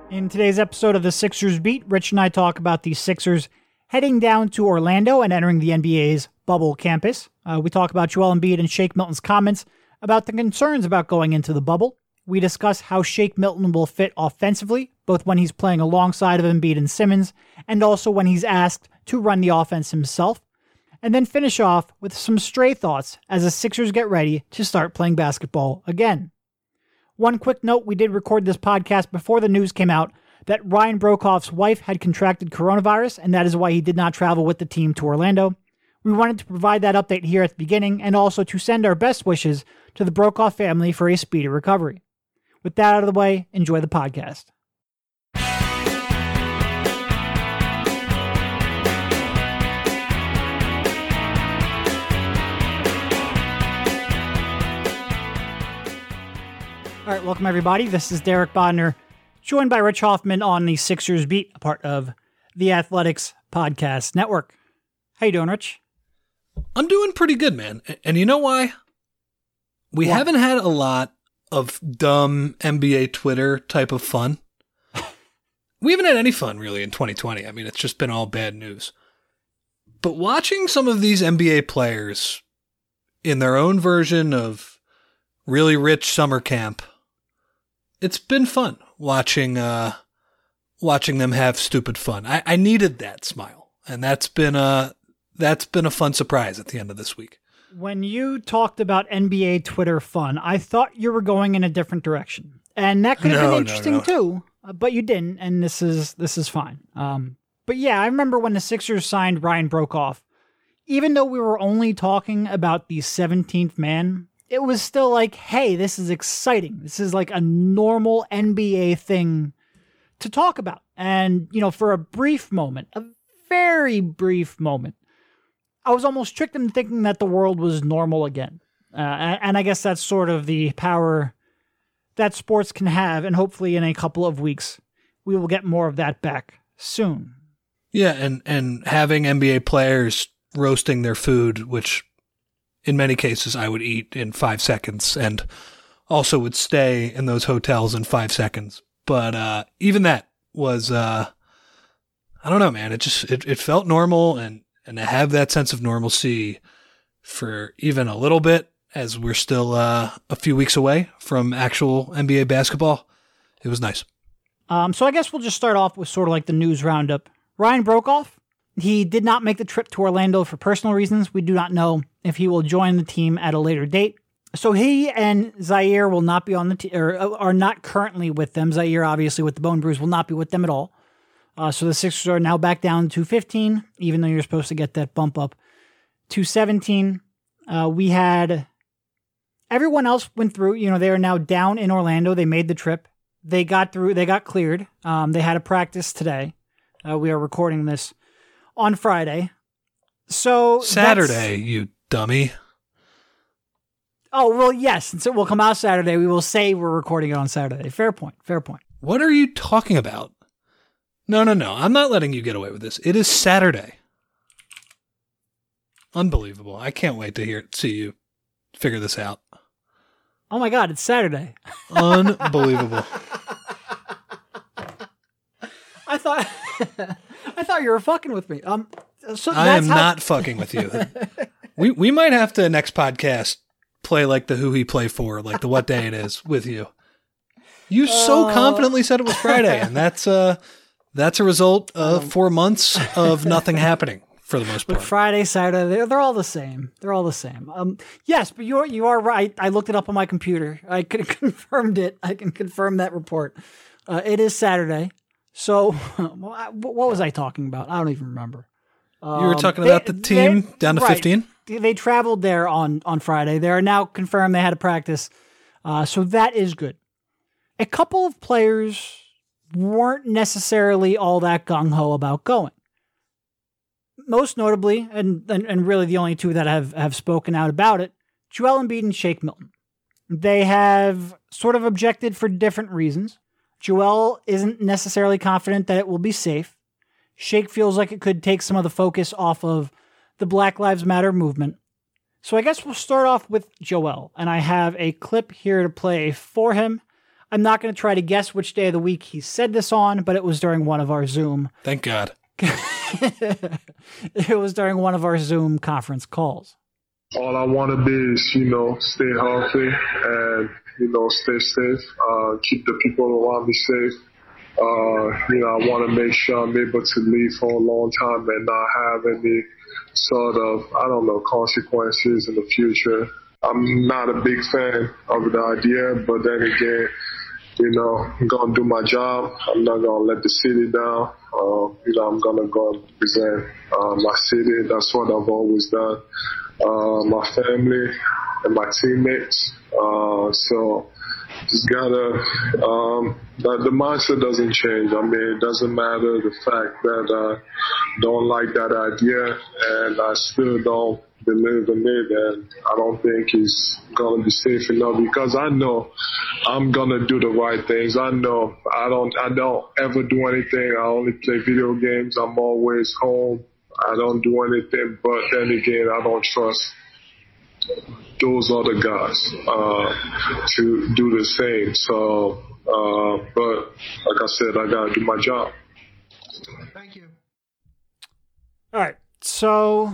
In today's episode of the Sixers Beat, Rich and I talk about the Sixers heading down to Orlando and entering the NBA's bubble campus. We talk about Joel Embiid and Shake Milton's comments about the concerns about going into the bubble. We discuss how Shake Milton will fit offensively, both when he's playing alongside of Embiid and Simmons, and also when he's asked to run the offense himself. And then finish off with some stray thoughts as the Sixers get ready to start playing basketball again. One quick note, we did record this podcast before the news came out that Ryan Broekhoff's wife had contracted coronavirus, and that is why he did not travel with the team to Orlando. We wanted to provide that update here at the beginning, and also to send our best wishes to the Broekhoff family for a speedy recovery. With that out of the way, enjoy the podcast. All right, welcome everybody. This is Derek Bodner, joined by Rich Hoffman on the Sixers Beat, a part of the Athletics Podcast Network. How you doing, Rich? I'm doing pretty good, man. And you know why? We haven't had a lot of dumb NBA Twitter type of fun. We haven't had any fun, really, in 2020. I mean, it's just been all bad news. But watching some of these NBA players in their own version of really rich summer camp, it's been fun watching them have stupid fun. I needed that smile, and that's been a fun surprise at the end of this week. When you talked about NBA Twitter fun, I thought you were going in a different direction, and that could have been interesting too. But you didn't, and this is fine. But yeah, I remember when the Sixers signed Ryan Broekhoff. Even though we were only talking about the 17th man, it was still like, hey, this is exciting. This is like a normal NBA thing to talk about. And, you know, for a brief moment, a very brief moment, I was almost tricked into thinking that the world was normal again. And I guess that's sort of the power that sports can have. And hopefully in a couple of weeks, we will get more of that back soon. Yeah, and having NBA players roasting their food, which in many cases I would eat in 5 seconds and also would stay in those hotels in 5 seconds. But even that was, I don't know, man. It felt normal, and to have that sense of normalcy for even a little bit, as we're still a few weeks away from actual NBA basketball, it was nice. So I guess we'll just start off with sort of like the news roundup. Ryan Broekhoff, he did not make the trip to Orlando for personal reasons. We do not know if he will join the team at a later date. So he and Zaire will not be on the team, or are not currently with them. Zaire, obviously, with the bone bruise, will not be with them at all. So the Sixers are now back down to 15, even though you're supposed to get that bump up to 17. We had everyone else went through. You know, they are now down in Orlando. They made the trip. They got through. They got cleared. They had a practice today. We are recording this on Friday. So Saturday, you dummy. Oh, well, yes. Since it will come out Saturday, we will say we're recording it on Saturday. Fair point. Fair point. What are you talking about? No. I'm not letting you get away with this. It is Saturday. Unbelievable. I can't wait to see you figure this out. Oh my God, it's Saturday. Unbelievable. I thought you were fucking with me. So I am not fucking with you. We might have to next podcast play like the who he play for, like the what day it is with you. You so confidently said it was Friday, and that's a result of 4 months of nothing happening for the most part. But Friday, Saturday, they're all the same. They're all the same. Yes, but you are right. I looked it up on my computer. I confirmed it. I can confirm that report. It is Saturday. So, what was I talking about? I don't even remember. You were talking about the team down to 15? They traveled there on Friday. They are now confirmed they had a practice. So that is good. A couple of players weren't necessarily all that gung-ho about going. Most notably, and really the only two that have spoken out about it, Joel Embiid and Shake Milton. They have sort of objected for different reasons. Joel isn't necessarily confident that it will be safe. Shake feels like it could take some of the focus off of the Black Lives Matter movement. So I guess we'll start off with Joel, and I have a clip here to play for him. I'm not going to try to guess which day of the week he said this on, but it was during one of our Zoom. Thank God. It was during one of our Zoom conference calls. All I want to be is, stay healthy and, stay safe, keep the people around me safe. I want to make sure I'm able to live for a long time and not have any sort of, consequences in the future. I'm not a big fan of the idea, but then again, I'm going to do my job. I'm not going to let the city down. I'm going to go and represent my city. That's what I've always done. My family and my teammates. So just gotta, the mindset doesn't change. I mean, it doesn't matter the fact that I don't like that idea and I still don't believe in it, and I don't think it's gonna be safe enough because I know I'm gonna do the right things. I know I don't ever do anything. I only play video games. I'm always home. I don't do anything, but then again, I don't trust those other guys to do the same. So, but like I said, I gotta do my job. Thank you. All right, so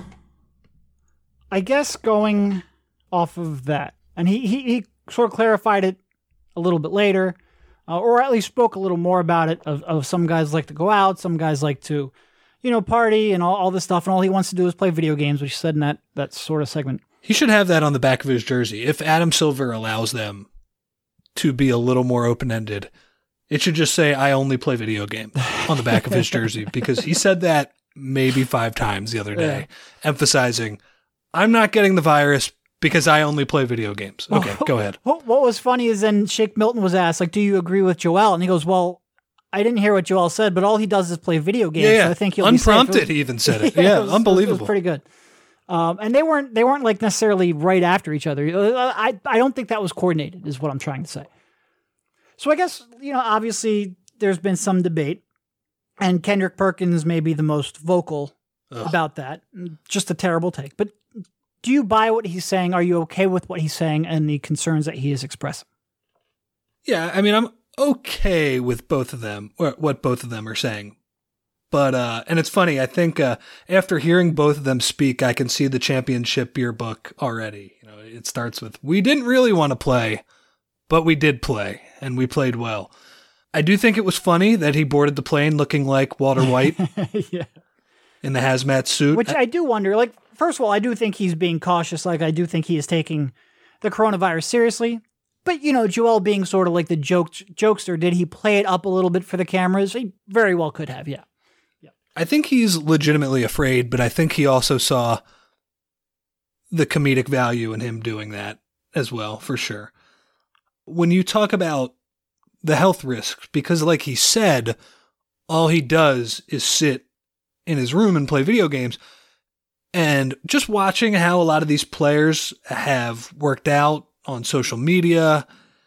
I guess going off of that, and he sort of clarified it a little bit later, or at least spoke a little more about it. Of some guys like to go out, some guys like to, party and all this stuff, and all he wants to do is play video games, which he said in that sort of segment. He should have that on the back of his jersey. If Adam Silver allows them to be a little more open-ended, it should just say, I only play video games on the back of his jersey, because he said that maybe 5 times the other day, emphasizing, I'm not getting the virus because I only play video games. Okay, go ahead. What was funny is then Shake Milton was asked, do you agree with Joel? And he goes, well, I didn't hear what Joel said, but all he does is play video games. Yeah. So I think he'll unprompted. Be safe. He even said it. Yeah, it was, unbelievable. It was pretty good. And they weren't like necessarily right after each other. I don't think that was coordinated, is what I'm trying to say. So I guess, obviously there's been some debate, and Kendrick Perkins may be the most vocal about that. Just a terrible take. But do you buy what he's saying? Are you okay with what he's saying and the concerns that he is expressing? Yeah, I mean, I'm okay with both of them, or what both of them are saying. But, and it's funny, I think after hearing both of them speak, I can see the championship yearbook already. It starts with, we didn't really want to play, but we did play, and we played well. I do think it was funny that he boarded the plane looking like Walter White in the hazmat suit. Which I do wonder, first of all, I do think he's being cautious. I do think he is taking the coronavirus seriously. But, Joel being sort of like the jokester, did he play it up a little bit for the cameras? He very well could have, yeah. I think he's legitimately afraid, but I think he also saw the comedic value in him doing that as well, for sure. When you talk about the health risks, because like he said, all he does is sit in his room and play video games. And just watching how a lot of these players have worked out on social media,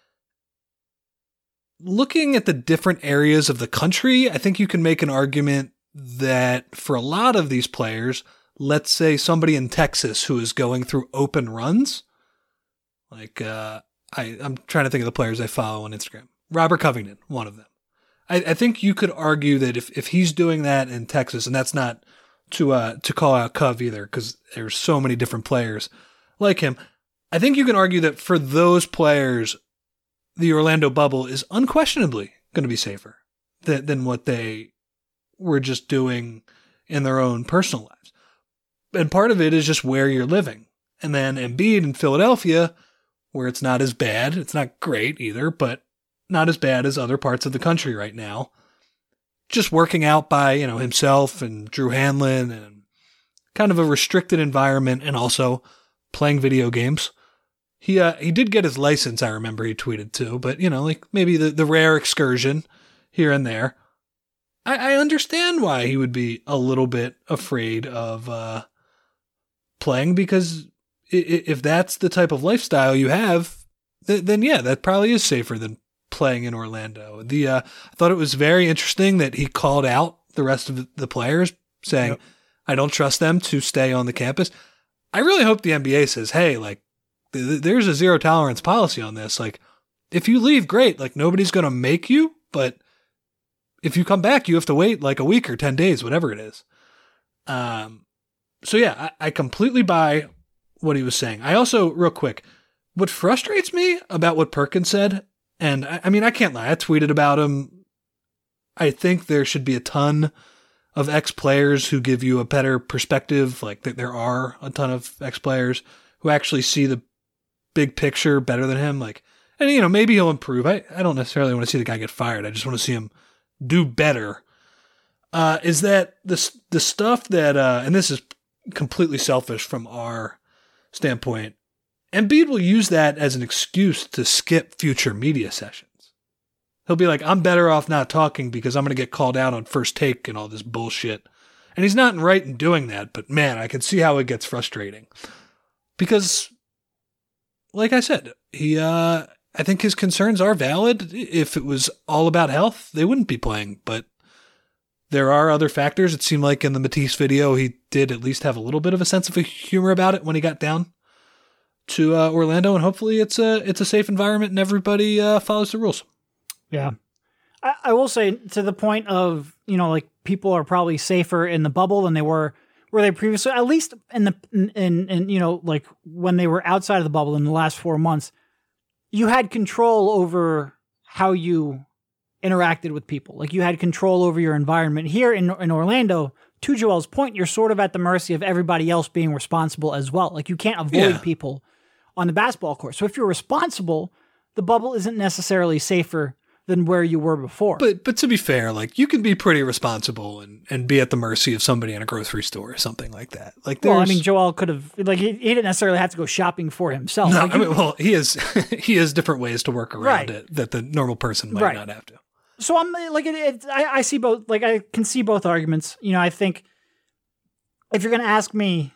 looking at the different areas of the country, I think you can make an argument that for a lot of these players, let's say somebody in Texas who is going through open runs, like I'm trying to think of the players I follow on Instagram. Robert Covington, one of them. I think you could argue that if he's doing that in Texas, and that's not to call out Cov either, because there's so many different players like him, I think you can argue that for those players, the Orlando bubble is unquestionably going to be safer than what they were just doing in their own personal lives. And part of it is just where you're living. And then Embiid in Philadelphia, where it's not as bad, it's not great either, but not as bad as other parts of the country right now. Just working out by, himself and Drew Hanlon, and kind of a restricted environment, and also playing video games. He did get his license, I remember he tweeted too, but maybe the rare excursion here and there. I understand why he would be a little bit afraid of playing, because if that's the type of lifestyle you have, then yeah, that probably is safer than playing in Orlando. I thought it was very interesting that he called out the rest of the players, saying, I don't trust them to stay on the campus. I really hope the NBA says, hey, there's a zero tolerance policy on this. If if you leave, great. Like, nobody's going to make you, but if you come back, you have to wait like a week or 10 days, whatever it is. So yeah, I completely buy what he was saying. I also, real quick, what frustrates me about what Perkins said, and I mean, I can't lie, I tweeted about him. I think there should be a ton of ex-players who give you a better perspective. Like, there are a ton of ex-players who actually see the big picture better than him. Like, and you know, maybe he'll improve. I don't necessarily want to see the guy get fired. I just want to see him do better. Is that the stuff that, and this is completely selfish from our standpoint, Embiid will use that as an excuse to skip future media sessions. He'll be like, I'm better off not talking because I'm going to get called out on First Take and all this bullshit. And he's not right in doing that, but man, I can see how it gets frustrating. Because, like I said, I think his concerns are valid. If it was all about health, they wouldn't be playing, but there are other factors. It seemed like in the Matisse video, he did at least have a little bit of a sense of humor about it when he got down to Orlando, and hopefully it's a safe environment and everybody follows the rules. Yeah. I will say, to the point of, you know, like, people are probably safer in the bubble than they were previously, at least in you know, like, when they were outside of the bubble in the last 4 months, you had control over how you interacted with people. Like, you had control over your environment. Here in Orlando, to Joel's point, you're sort of at the mercy of everybody else being responsible as well. Like, you can't avoid people on the basketball court. So if you're responsible, the bubble isn't necessarily safer than where you were before. But to be fair, like, you can be pretty responsible and be at the mercy of somebody in a grocery store or something like that. Like, well, I mean, Joel could have, like, he didn't necessarily have to go shopping for himself. No, like, I mean, well, he has different ways to work around it that the normal person might not have to. So I'm like, I see both. Like, I can see both arguments. You know, I think if you're going to ask me,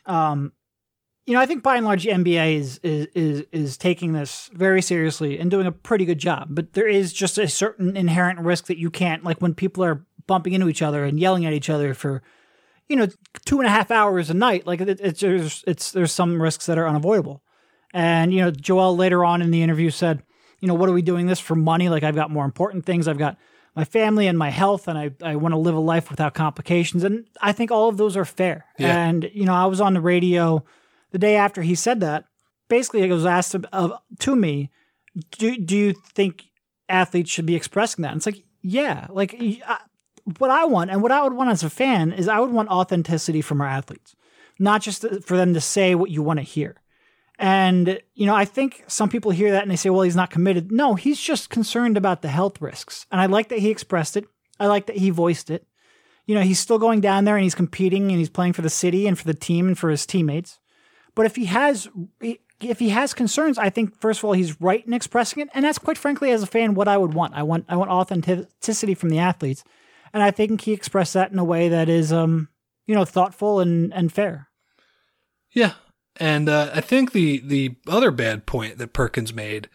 you know, I think by and large the NBA is taking this very seriously and doing a pretty good job. But there is just a certain inherent risk that you can't, like, when people are bumping into each other and yelling at each other for, you know, 2.5 hours a night. Like, there's some risks that are unavoidable. And, you know, Joel later on in the interview said, you know, what are we doing this for money? Like, I've got more important things. I've got my family and my health, and I want to live a life without complications. And I think all of those are fair. Yeah. And, you know, I was on the radio the day after he said that. Basically, it was asked to me, do you think athletes should be expressing that? And it's like, yeah. Like, what I want, and what I would want as a fan, is I would want authenticity from our athletes, not just for them to say what you want to hear. And, you know, I think some people hear that and they say, well, he's not committed. No, he's just concerned about the health risks. And I like that he expressed it. I like that he voiced it. You know, he's still going down there and he's competing and he's playing for the city and for the team and for his teammates. But if he has concerns, I think, first of all, he's right in expressing it. And that's, quite frankly, as a fan, what I would want. I want authenticity from the athletes. And I think he expressed that in a way that is, you know, thoughtful and fair. Yeah. And I think the other bad point that Perkins made,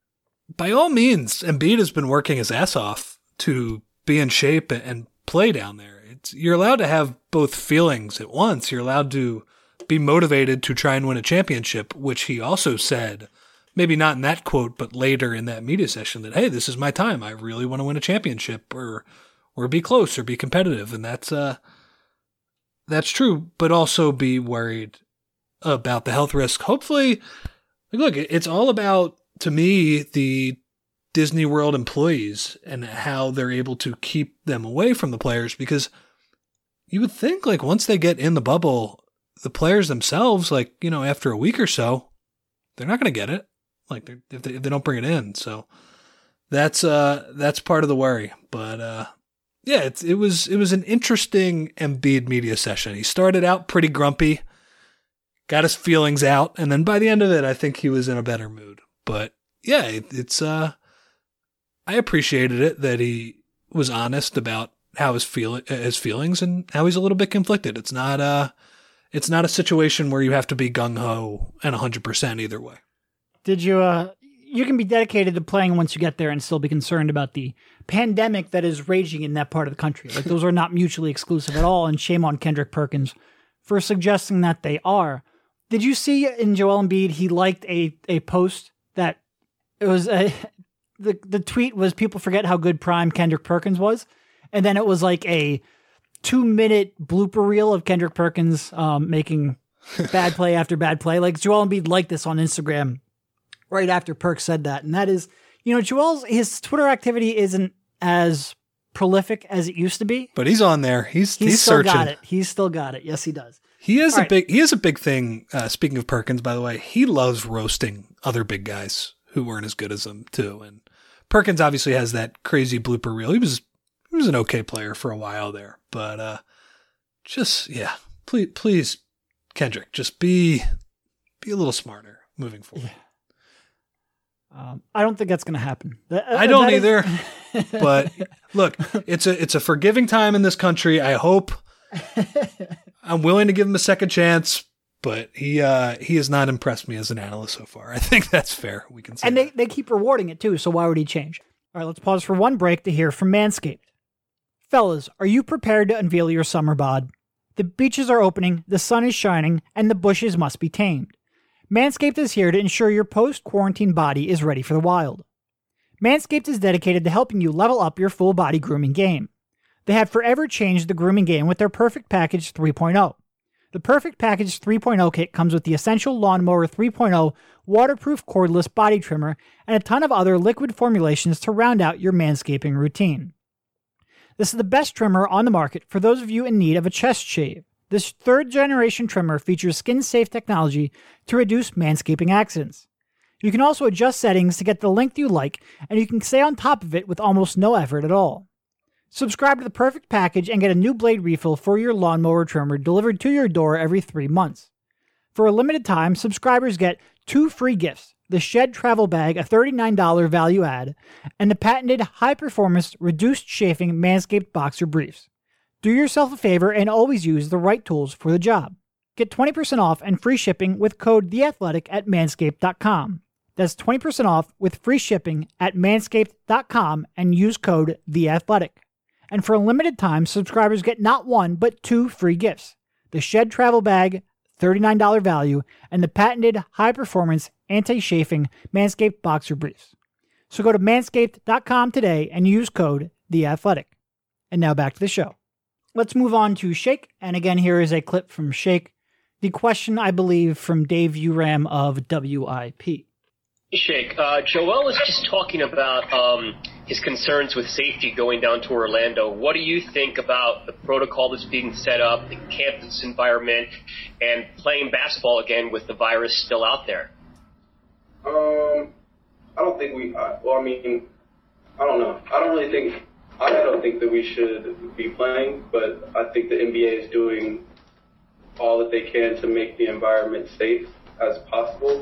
by all means, Embiid has been working his ass off to be in shape and play down there. You're allowed to have both feelings at once. You're allowed to be motivated to try and win a championship, which he also said, maybe not in that quote, but later in that media session, that, hey, this is my time. I really want to win a championship or be close or be competitive. And that's true, but also be worried about the health risk. Hopefully, look, it's all about, to me, the Disney World employees and how they're able to keep them away from the players, because you would think, like, once they get in the bubble, the players themselves, like, you know, after a week or so, they're not going to get it. Like, if they don't bring it in. So that's part of the worry. But yeah, it was an interesting Embiid media session. He started out pretty grumpy, got his feelings out, and then by the end of it, I think he was in a better mood. But yeah, it's I appreciated it that he was honest about how his feelings and how he's a little bit conflicted. It's not a situation where you have to be gung ho and 100% either way. Did you? You can be dedicated to playing once you get there and still be concerned about the pandemic that is raging in that part of the country. Like, those are not mutually exclusive at all. And shame on Kendrick Perkins for suggesting that they are. Did you see in Joel Embiid, he liked a post that it was the tweet was people forget how good prime Kendrick Perkins was. And then it was like a 2-minute blooper reel of Kendrick Perkins making bad play after bad play. Like Joel Embiid liked this on Instagram right after Perk said that. And that is, his Twitter activity isn't as prolific as it used to be. But he's on there. He's still searching. got it. He's still got it. Yes, he does. He has a big thing. Speaking of Perkins, by the way, he loves roasting other big guys who weren't as good as him too. And Perkins obviously has that crazy blooper reel. He was an okay player for a while there, but please, Kendrick, just be a little smarter moving forward. Yeah. I don't think that's going to happen. I don't either. But look, it's a forgiving time in this country. I hope. I'm willing to give him a second chance, but he has not impressed me as an analyst so far. I think that's fair. We can say. And they keep rewarding it too. So why would he change? All right, let's pause for one break to hear from Manscaped. Fellas, are you prepared to unveil your summer bod? The beaches are opening, the sun is shining, and the bushes must be tamed. Manscaped is here to ensure your post-quarantine body is ready for the wild. Manscaped is dedicated to helping you level up your full body grooming game. They have forever changed the grooming game with their Perfect Package 3.0. The Perfect Package 3.0 kit comes with the Essential Lawnmower 3.0 waterproof cordless body trimmer and a ton of other liquid formulations to round out your manscaping routine. This is the best trimmer on the market for those of you in need of a chest shave. This third-generation trimmer features skin-safe technology to reduce manscaping accidents. You can also adjust settings to get the length you like, and you can stay on top of it with almost no effort at all. Subscribe to the Perfect Package and get a new blade refill for your lawnmower trimmer delivered to your door every 3 months. For a limited time, subscribers get 2 free gifts: the Shed Travel Bag, a $39 value add, and the patented high-performance reduced chafing Manscaped Boxer Briefs. Do yourself a favor and always use the right tools for the job. Get 20% off and free shipping with code THEATHLETIC at manscaped.com. That's 20% off with free shipping at manscaped.com and use code THEATHLETIC. And for a limited time, subscribers get not 1, but 2 free gifts: the Shed Travel Bag, $39 value, and the patented high-performance anti-chafing Manscaped Boxer Briefs. So go to manscaped.com today and use code THEATHLETIC. And now back to the show. Let's move on to Shake. And again, here is a clip from Shake. The question, I believe, from Dave Uram of WIP. Shake, Joel was just talking about his concerns with safety going down to Orlando. What do you think about the protocol that's being set up, the campus environment, and playing basketball again with the virus still out there? I don't think I don't know. I don't think that we should be playing, but I think the NBA is doing all that they can to make the environment safe as possible.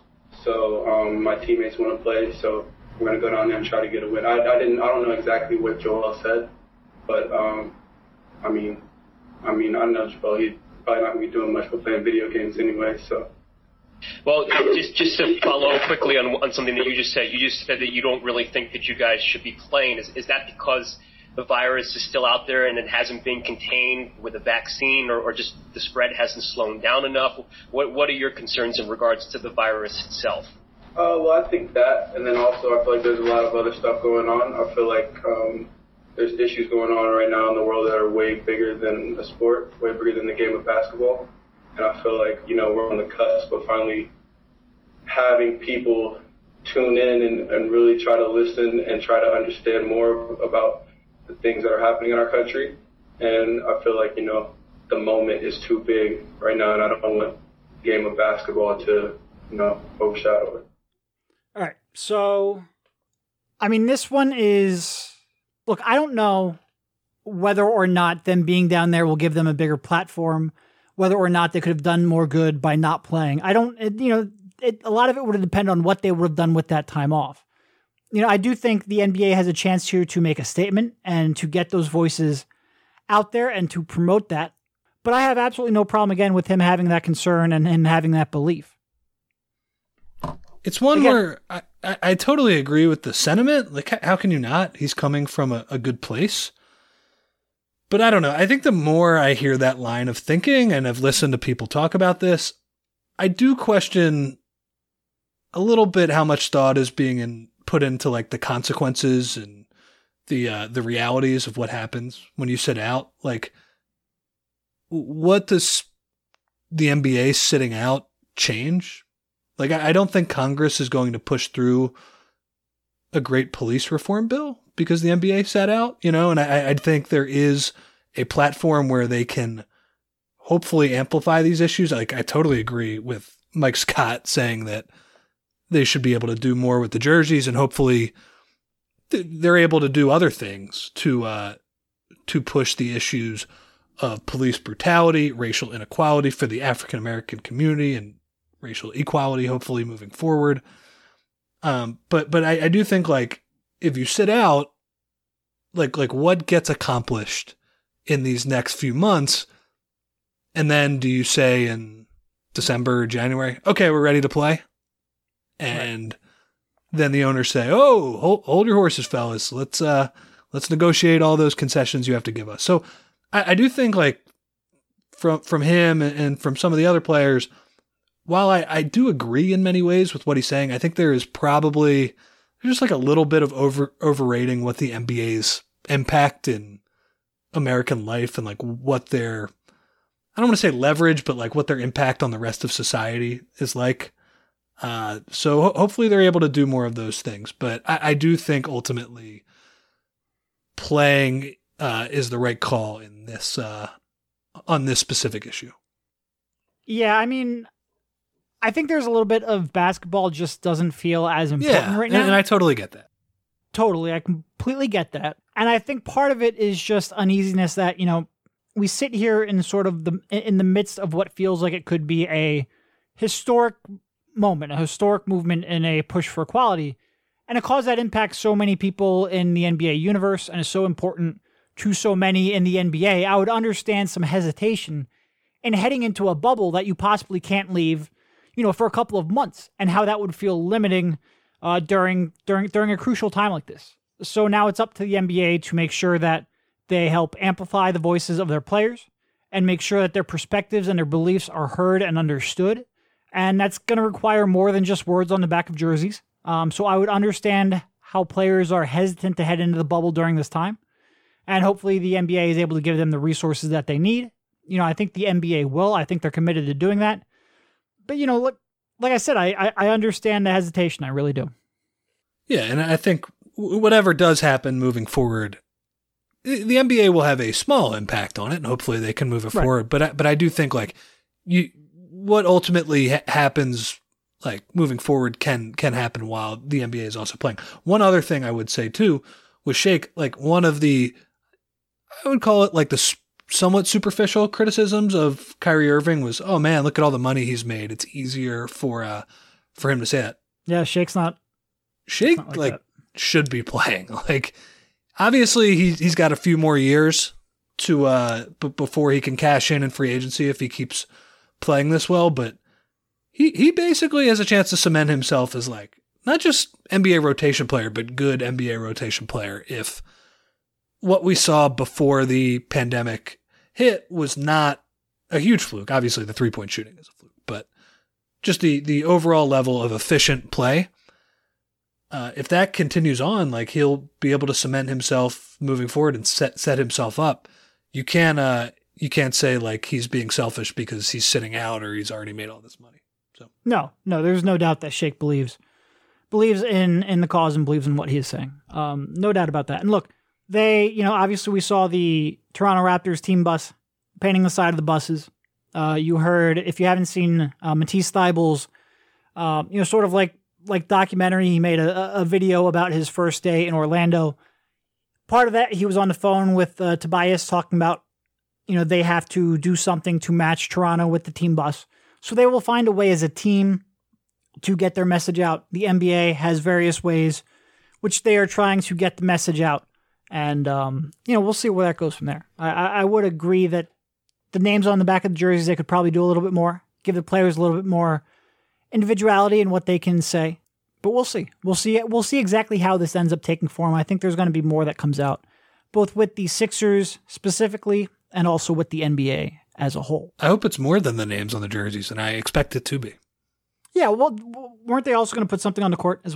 So my teammates want to play, so we're going to go down there and try to get a win. I don't know exactly what Joel said, but I know Joel, he's probably not going to be doing much for playing video games anyway, so. Well, just to follow up quickly on something that you just said. You just said that you don't really think that you guys should be playing. Is that because the virus is still out there and it hasn't been contained with a vaccine, or just the spread hasn't slowed down enough? What are your concerns in regards to the virus itself? Well, I think that, and then also I feel like there's a lot of other stuff going on. I feel like there's issues going on right now in the world that are way bigger than the sport, way bigger than the game of basketball. And I feel like, we're on the cusp of finally having people tune in and really try to listen and try to understand more about the things that are happening in our country. And I feel like, the moment is too big right now, and I don't want the game of basketball to, overshadow it. All right. So, this one is, look, I don't know whether or not them being down there will give them a bigger platform, whether or not they could have done more good by not playing. A lot of it would depend on what they would have done with that time off. I do think the NBA has a chance here to make a statement and to get those voices out there and to promote that. But I have absolutely no problem, again, with him having that concern and him having that belief. It's one where I totally agree with the sentiment. Like, how can you not? He's coming from a good place. But I don't know. I think the more I hear that line of thinking, and I've listened to people talk about this, I do question a little bit how much thought is being put put into like the consequences and the realities of what happens when you sit out. Like, what does the NBA sitting out change? Like, I don't think Congress is going to push through a great police reform bill because the NBA sat out, you know, and I think there is a platform where they can hopefully amplify these issues. Like, I totally agree with Mike Scott saying that they should be able to do more with the jerseys, and hopefully they're able to do other things to push the issues of police brutality, racial inequality for the African American community, and racial equality, hopefully moving forward. But I do think, like, if you sit out, like what gets accomplished in these next few months, and then do you say in December or January, okay, we're ready to play? And then the owners say, oh, hold your horses, fellas. Let's negotiate all those concessions you have to give us. So I do think, like, from him and from some of the other players, while I do agree in many ways with what he's saying, I think there's just like a little bit of overrating what the NBA's impact in American life and like what their, I don't want to say leverage, but like what their impact on the rest of society is like. So hopefully they're able to do more of those things. But I do think ultimately playing is the right call in this on this specific issue. Yeah, I mean, I think there's a little bit of basketball just doesn't feel as important right now. And I totally get that. Totally. I completely get that. And I think part of it is just uneasiness that, you know, we sit here in sort of in the midst of what feels like it could be a historic moment, a historic movement in a push for equality. And a cause that impacts so many people in the NBA universe and is so important to so many in the NBA. I would understand some hesitation in heading into a bubble that you possibly can't leave, you know, for a couple of months, and how that would feel limiting during a crucial time like this. So now it's up to the NBA to make sure that they help amplify the voices of their players and make sure that their perspectives and their beliefs are heard and understood. And that's going to require more than just words on the back of jerseys. So I would understand how players are hesitant to head into the bubble during this time. And hopefully the NBA is able to give them the resources that they need. You know, I think the NBA will. I think they're committed to doing that. But, you know, look, like I said, I understand the hesitation. I really do. Yeah, and I think whatever does happen moving forward, the NBA will have a small impact on it, and hopefully they can move it forward. But I do think, like, what ultimately happens, like, moving forward can happen while the NBA is also playing. One other thing I would say too was Shake, like, one of the, I would call it like the somewhat superficial criticisms of Kyrie Irving was, oh man, look at all the money he's made. It's easier for him to say that. Yeah, Shake like should be playing. Like, obviously he's got a few more years to before he can cash in free agency if he keeps playing this well, but he basically has a chance to cement himself as, like, not just NBA rotation player, but good NBA rotation player if what we saw before the pandemic hit was not a huge fluke. Obviously the 3-point shooting is a fluke, but just the overall level of efficient play. If that continues on, like, he'll be able to cement himself moving forward and set himself up. You can't say, like, he's being selfish because he's sitting out or he's already made all this money. So no, there's no doubt that Shake believes in the cause and believes in what he is saying. No doubt about that. And look, they, you know, obviously we saw the Toronto Raptors team bus painting the side of the buses. You heard, if you haven't seen Matisse Thybulle's, you know, sort of like documentary, he made a video about his first day in Orlando. Part of that, he was on the phone with Tobias talking about, you know, they have to do something to match Toronto with the team bus. So they will find a way as a team to get their message out. The NBA has various ways which they are trying to get the message out. And, you know, we'll see where that goes from there. I would agree that the names on the back of the jerseys, they could probably do a little bit more, give the players a little bit more individuality in what they can say. But we'll see. We'll see exactly how this ends up taking form. I think there's going to be more that comes out, both with the Sixers specifically and also with the NBA as a whole. I hope it's more than the names on the jerseys, and I expect it to be. Yeah, well, weren't they also going to put something on the court as well?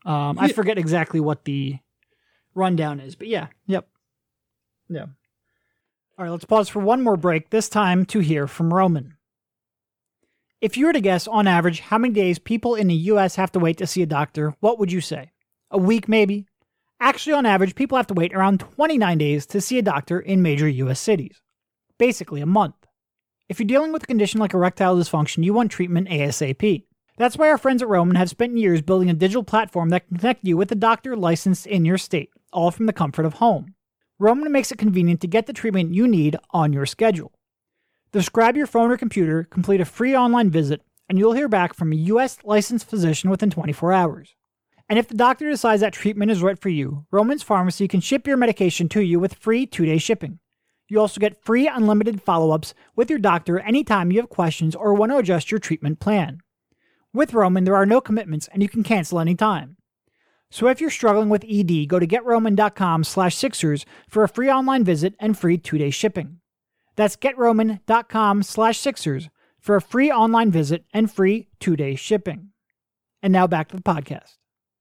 I forget exactly what the rundown is, but yeah. Yep. Yeah. All right, let's pause for one more break, this time to hear from Roman. If you were to guess, on average, how many days people in the U.S. have to wait to see a doctor, what would you say? A week, maybe? Actually, on average, people have to wait around 29 days to see a doctor in major U.S. cities. Basically, a month. If you're dealing with a condition like erectile dysfunction, you want treatment ASAP. That's why our friends at Roman have spent years building a digital platform that can connect you with a doctor licensed in your state, all from the comfort of home. Roman makes it convenient to get the treatment you need on your schedule. Just grab your phone or computer, complete a free online visit, and you'll hear back from a U.S. licensed physician within 24 hours. And if the doctor decides that treatment is right for you, Roman's Pharmacy can ship your medication to you with free 2-day shipping. You also get free unlimited follow-ups with your doctor anytime you have questions or want to adjust your treatment plan. With Roman, there are no commitments and you can cancel anytime. So if you're struggling with ED, go to GetRoman.com/Sixers for a free online visit and free 2-day shipping. That's GetRoman.com/Sixers for a free online visit and free 2-day shipping. And now back to the podcast.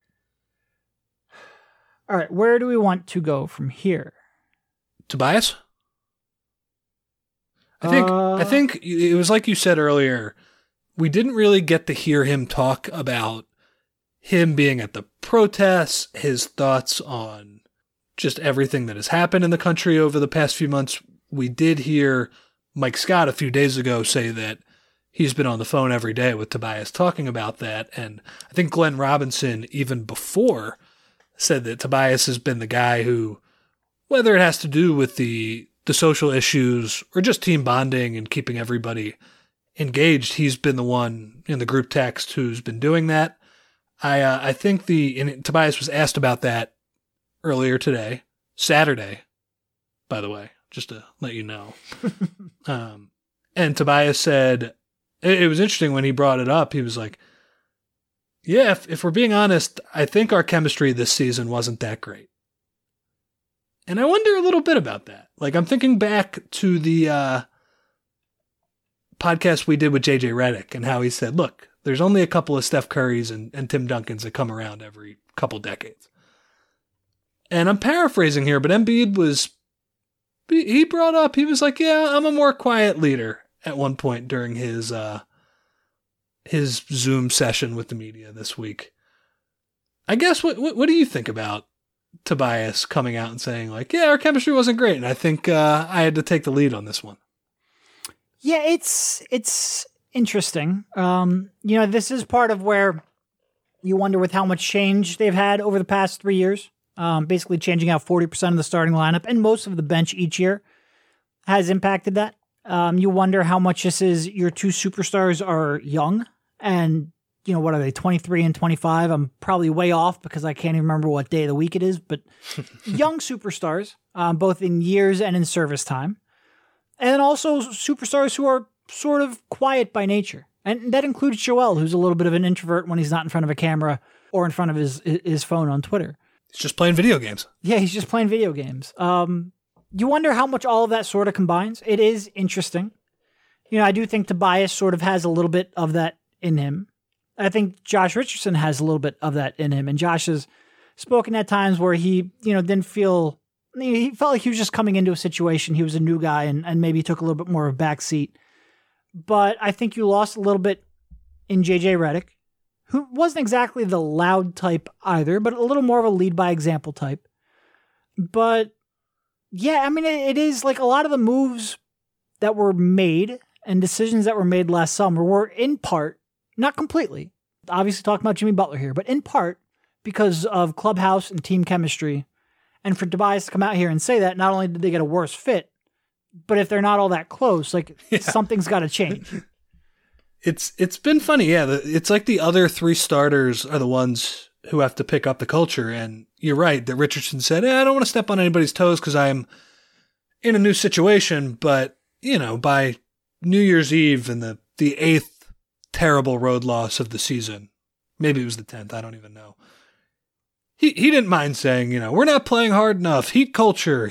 All right, where do we want to go from here? Tobias? I think it was like you said earlier, we didn't really get to hear him talk about him being at the protests, his thoughts on just everything that has happened in the country over the past few months. We did hear Mike Scott a few days ago say that he's been on the phone every day with Tobias talking about that. And I think Glenn Robinson, even before, said that Tobias has been the guy who, whether it has to do with the social issues or just team bonding and keeping everybody engaged, he's been the one in the group text who's been doing that. I think Tobias was asked about that earlier today, Saturday, by the way, just to let you know. And Tobias said, it was interesting when he brought it up, he was like, yeah, if we're being honest, I think our chemistry this season wasn't that great. And I wonder a little bit about that. Like, I'm thinking back to the podcast we did with JJ Redick and how he said, look, there's only a couple of Steph Currys and Tim Duncans that come around every couple decades. And I'm paraphrasing here, but Embiid he brought up, he was like, yeah, I'm a more quiet leader at one point during his Zoom session with the media this week. I guess, what do you think about Tobias coming out and saying, like, yeah, our chemistry wasn't great, and I think I had to take the lead on this one? Yeah, it's interesting. This is part of where you wonder with how much change they've had over the past 3 years, basically changing out 40% of the starting lineup and most of the bench each year has impacted that. You wonder how much this is your two superstars are young and, what are they, 23 and 25? I'm probably way off because I can't even remember what day of the week it is, but young superstars, both in years and in service time. And then also superstars who are sort of quiet by nature. And that includes Joel, who's a little bit of an introvert when he's not in front of a camera or in front of his phone on Twitter. He's just playing video games. Yeah, he's just playing video games. You wonder how much all of that sort of combines. It is interesting. I do think Tobias sort of has a little bit of that in him. I think Josh Richardson has a little bit of that in him. And Josh has spoken at times where he, didn't feel, he felt like he was just coming into a situation. He was a new guy and maybe took a little bit more of a back seat. But I think you lost a little bit in JJ Redick, who wasn't exactly the loud type either, but a little more of a lead by example type. But yeah, I mean, it is like a lot of the moves that were made and decisions that were made last summer were in part, not completely, obviously talking about Jimmy Butler here, but in part because of clubhouse and team chemistry. And for Tobias to come out here and say that, not only did they get a worse fit, but if they're not all that close, something's got to change. It's been funny, yeah. It's like the other three starters are the ones who have to pick up the culture. And you're right that Richardson said, I don't want to step on anybody's toes because I'm in a new situation. But, by New Year's Eve and the 8th terrible road loss of the season, maybe it was the 10th, I don't even know. He didn't mind saying, we're not playing hard enough. Heat culture,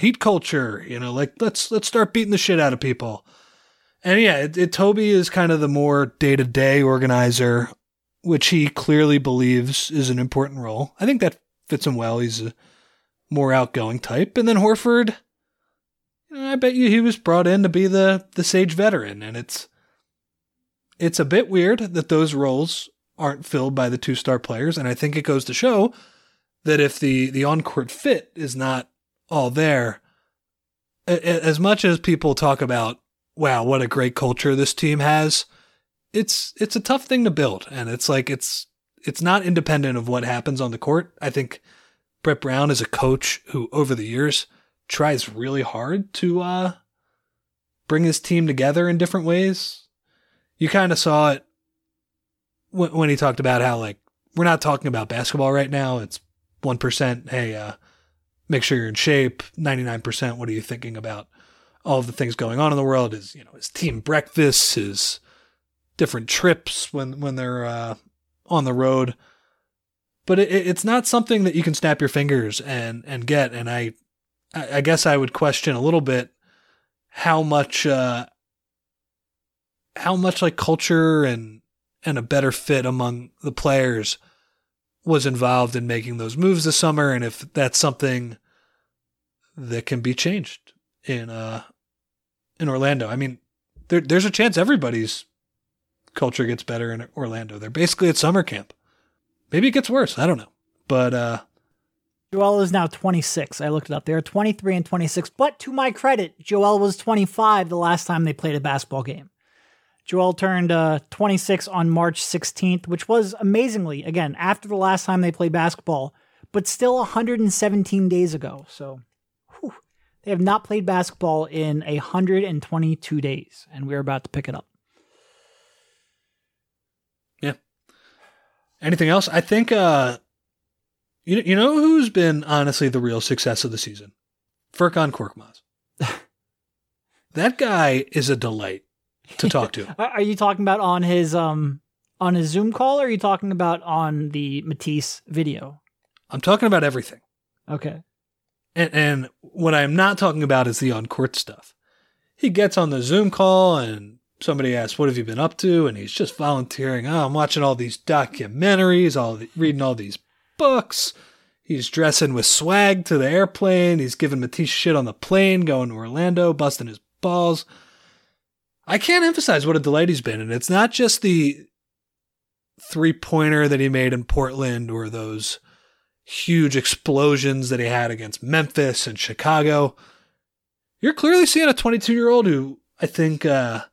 let's start beating the shit out of people. And yeah, Toby is kind of the more day-to-day organizer which he clearly believes is an important role. I think that fits him well. He's a more outgoing type. And then Horford, I bet you he was brought in to be the sage veteran. And it's a bit weird that those roles aren't filled by the two-star players. And I think it goes to show that if the on-court fit is not all there, as much as people talk about, wow, what a great culture this team has, it's a tough thing to build. And it's like, it's not independent of what happens on the court. I think Brett Brown is a coach who over the years tries really hard to bring his team together in different ways. You kind of saw it when he talked about how, like, we're not talking about basketball right now. It's 1%. Hey, make sure you're in shape. 99%. What are you thinking about all of the things going on in the world? His team breakfasts, his different trips when they're on the road. But it's not something that you can snap your fingers and get. And I guess I would question a little bit how much like culture and a better fit among the players was involved in making those moves this summer, and if that's something that can be changed in Orlando. I mean, there's a chance everybody's culture gets better in Orlando. They're basically at summer camp. Maybe it gets worse. I don't know. But Joel is now 26. I looked it up. They're 23 and 26. But to my credit, Joel was 25 the last time they played a basketball game. Joel turned 26 on March 16th, which was amazingly, again, after the last time they played basketball, but still 117 days ago. So they have not played basketball in 122 days, and we're about to pick it up. Yeah. Anything else? I think, you know who's been honestly the real success of the season? Furkan Korkmaz. That guy is a delight to talk to. Are you talking about on his Zoom call, or are you talking about on the Matisse video? I'm talking about everything. Okay. And what I'm not talking about is the on-court stuff. He gets on the Zoom call and somebody asks, what have you been up to? And he's just volunteering. Oh, I'm watching all these documentaries, reading all these books. He's dressing with swag to the airplane. He's giving Matisse shit on the plane, going to Orlando, busting his balls. I can't emphasize what a delight he's been. And it's not just the three-pointer that he made in Portland or those huge explosions that he had against Memphis and Chicago. You're clearly seeing a 22-year-old who I think,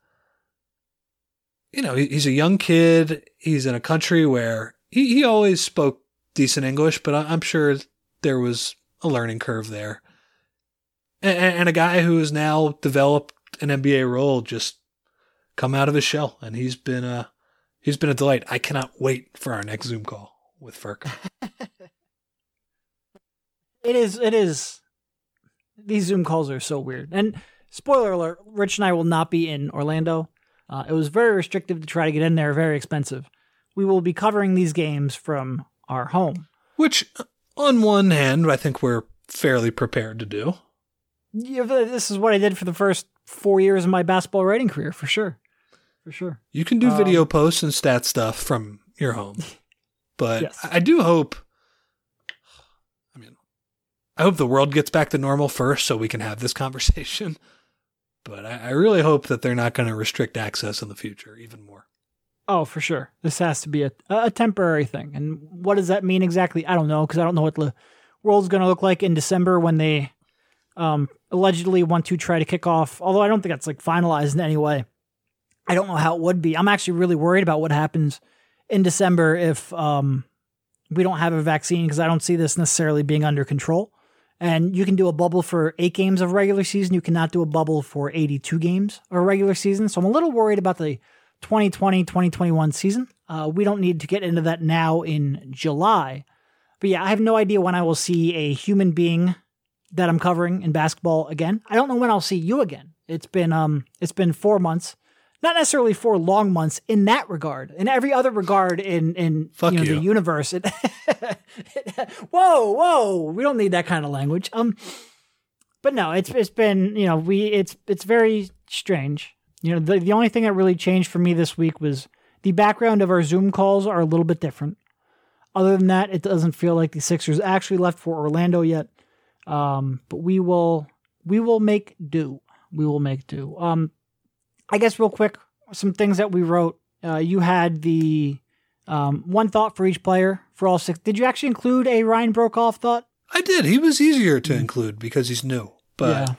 he's a young kid. He's in a country where he always spoke decent English, but I'm sure there was a learning curve there. And a guy who has now developed an NBA role, just come out of his shell, and he's been a delight. I cannot wait for our next Zoom call with Furk. It is. These Zoom calls are so weird. And spoiler alert, Rich and I will not be in Orlando. It was very restrictive to try to get in there, very expensive. We will be covering these games from our home. Which, on one hand, I think we're fairly prepared to do. Yeah, this is what I did for the first 4 years of my basketball writing career, for sure. For sure. You can do video posts and stat stuff from your home. But yes. I do hope, I hope the world gets back to normal first so we can have this conversation. But I really hope that they're not going to restrict access in the future even more. Oh, for sure. This has to be a temporary thing. And what does that mean exactly? I don't know, because I don't know what the world's going to look like in December when they allegedly want to try to kick off, although I don't think that's finalized in any way. I don't know how it would be. I'm actually really worried about what happens in December if we don't have a vaccine, because I don't see this necessarily being under control. And you can do a bubble for 8 games of regular season. You cannot do a bubble for 82 games of regular season. So I'm a little worried about the 2020-2021 season. We don't need to get into that now in July. But yeah, I have no idea when I will see a human being that I'm covering in basketball again. I don't know when I'll see you again. It's been 4 months. Not necessarily 4 long months in that regard. In every other regard in the universe. Whoa, we don't need that kind of language. But no, it's been, it's very strange. The only thing that really changed for me this week was The background of our Zoom calls are a little bit different. Other than that, it doesn't feel like the Sixers actually left for Orlando yet. But we will make do. We will make do. I guess real quick, some things that we wrote. You had the one thought for each player for all six. Did you actually include a Ryan Broekhoff thought? I did. He was easier to include because he's new. But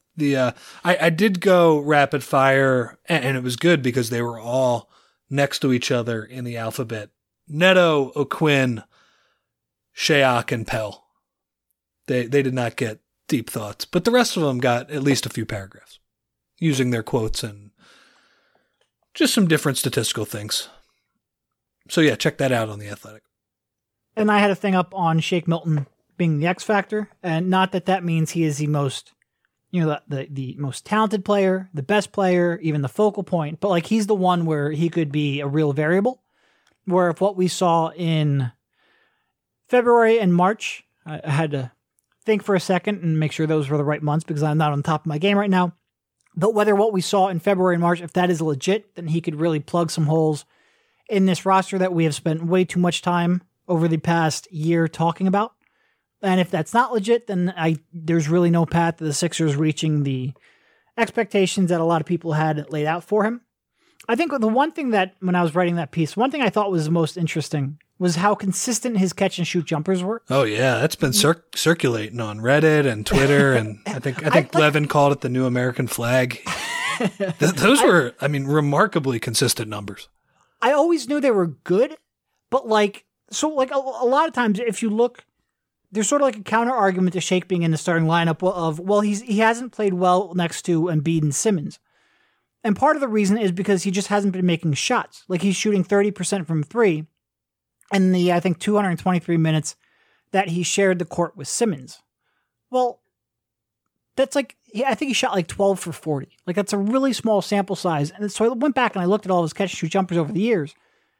I did go rapid fire, and it was good because they were all next to each other in the alphabet. Neto, O'Quinn, Shayok, and Pell. They did not get deep thoughts, but the rest of them got at least a few paragraphs using their quotes and just some different statistical things. So yeah, check that out on The Athletic. And I had a thing up on Shake Milton being the X factor, and not that means he is the most, the most talented player, the best player, even the focal point, but like he's the one where he could be a real variable. Where if what we saw in February and March, I had to think for a second and make sure those were the right months because I'm not on top of my game right now. But whether what we saw in February and March, if that is legit, then he could really plug some holes in this roster that we have spent way too much time over the past year talking about. And if that's not legit, then there's really no path to the Sixers reaching the expectations that a lot of people had laid out for him. I think the one thing that, when I was writing that piece, one thing I thought was the most interesting was how consistent his catch and shoot jumpers were. Oh yeah, that's been circulating on Reddit and Twitter, and I think Levin called it the new American flag. Those were, remarkably consistent numbers. I always knew they were good, but a lot of times if you look, there's sort of like a counter argument to Shake being in the starting lineup of, well, he hasn't played well next to Embiid and Simmons. And part of the reason is because he just hasn't been making shots. Like he's shooting 30% from three in the, 223 minutes that he shared the court with Simmons. Well, that's I think he shot like 12 for 40. Like that's a really small sample size. And so I went back and I looked at all his catch and shoot jumpers over the years.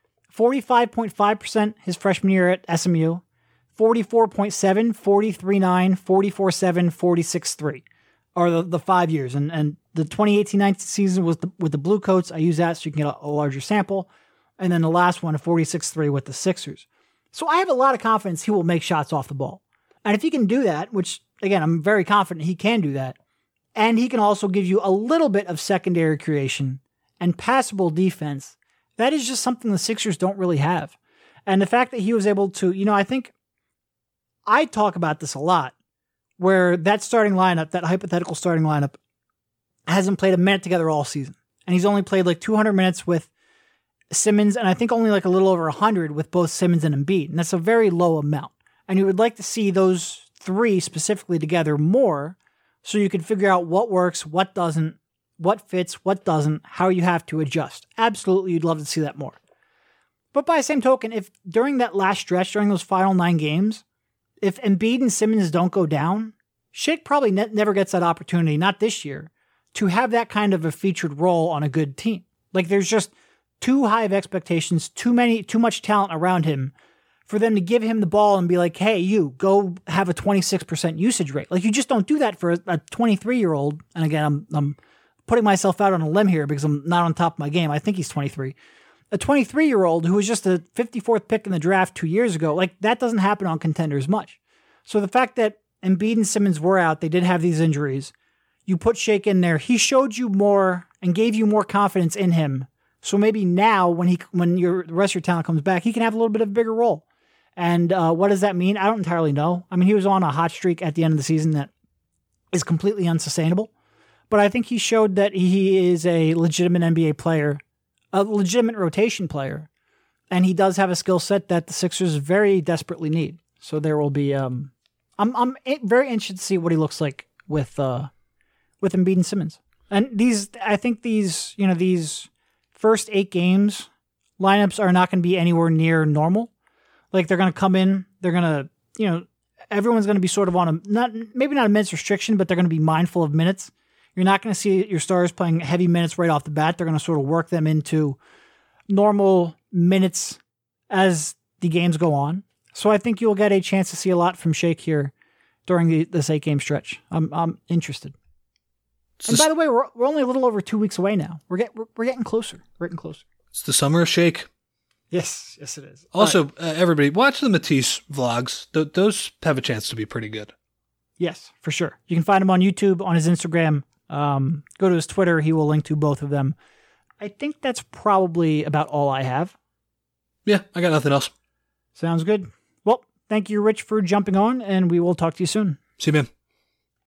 45.5% his freshman year at SMU, 44.7, 43.9, 44.7, 46.3 are the 5 years. And the 2018-19 season was with the Blue Coats. I use that so you can get a larger sample. And then the last one, a 46.3 with the Sixers. So I have a lot of confidence he will make shots off the ball. And if he can do that, which, again, I'm very confident he can do that, and he can also give you a little bit of secondary creation and passable defense, that is just something the Sixers don't really have. And the fact that he was able to, I think I talk about this a lot, where that starting lineup, that hypothetical starting lineup, hasn't played a minute together all season. And he's only played like 200 minutes with Simmons, and I think only like a little over 100 with both Simmons and Embiid. And that's a very low amount. And you would like to see those three specifically together more so you can figure out what works, what doesn't, what fits, what doesn't, how you have to adjust. Absolutely, you'd love to see that more. But by the same token, if during that last stretch, during those final 9 games, if Embiid and Simmons don't go down, Shake probably never gets that opportunity, not this year, to have that kind of a featured role on a good team. Like there's just too high of expectations, too much talent around him for them to give him the ball and be like, hey, you go have a 26% usage rate. Like you just don't do that for a 23-year-old. And again, I'm putting myself out on a limb here because I'm not on top of my game. I think he's 23. A 23-year-old who was just a 54th pick in the draft 2 years ago, like that doesn't happen on contenders much. So the fact that Embiid and Simmons were out, they did have these injuries. You put Shake in there. He showed you more and gave you more confidence in him. So maybe now when the rest of your talent comes back, he can have a little bit of a bigger role. And what does that mean? I don't entirely know. I mean, he was on a hot streak at the end of the season that is completely unsustainable. But I think he showed that he is a legitimate NBA player, a legitimate rotation player. And he does have a skill set that the Sixers very desperately need. So there will be, I'm very interested to see what he looks like with Embiid and Simmons. And I think these first 8 games lineups are not going to be anywhere near normal. Like they're going to come in, they're going to, everyone's going to be sort of on maybe not a minutes restriction, but they're going to be mindful of minutes. You're not going to see your stars playing heavy minutes right off the bat. They're going to sort of work them into normal minutes as the games go on. So I think you'll get a chance to see a lot from Shake here during this 8-game stretch. I'm interested. And by the way, we're only a little over 2 weeks away now. We're getting closer. We're getting closer. It's the summer of Shake. Yes, it is. Also, everybody, watch the Matisse vlogs. Those have a chance to be pretty good. Yes, for sure. You can find him on YouTube, on his Instagram. Go to his Twitter. He will link to both of them. I think that's probably about all I have. Yeah, I got nothing else. Sounds good. Well, thank you, Rich, for jumping on, and we will talk to you soon. See you, man.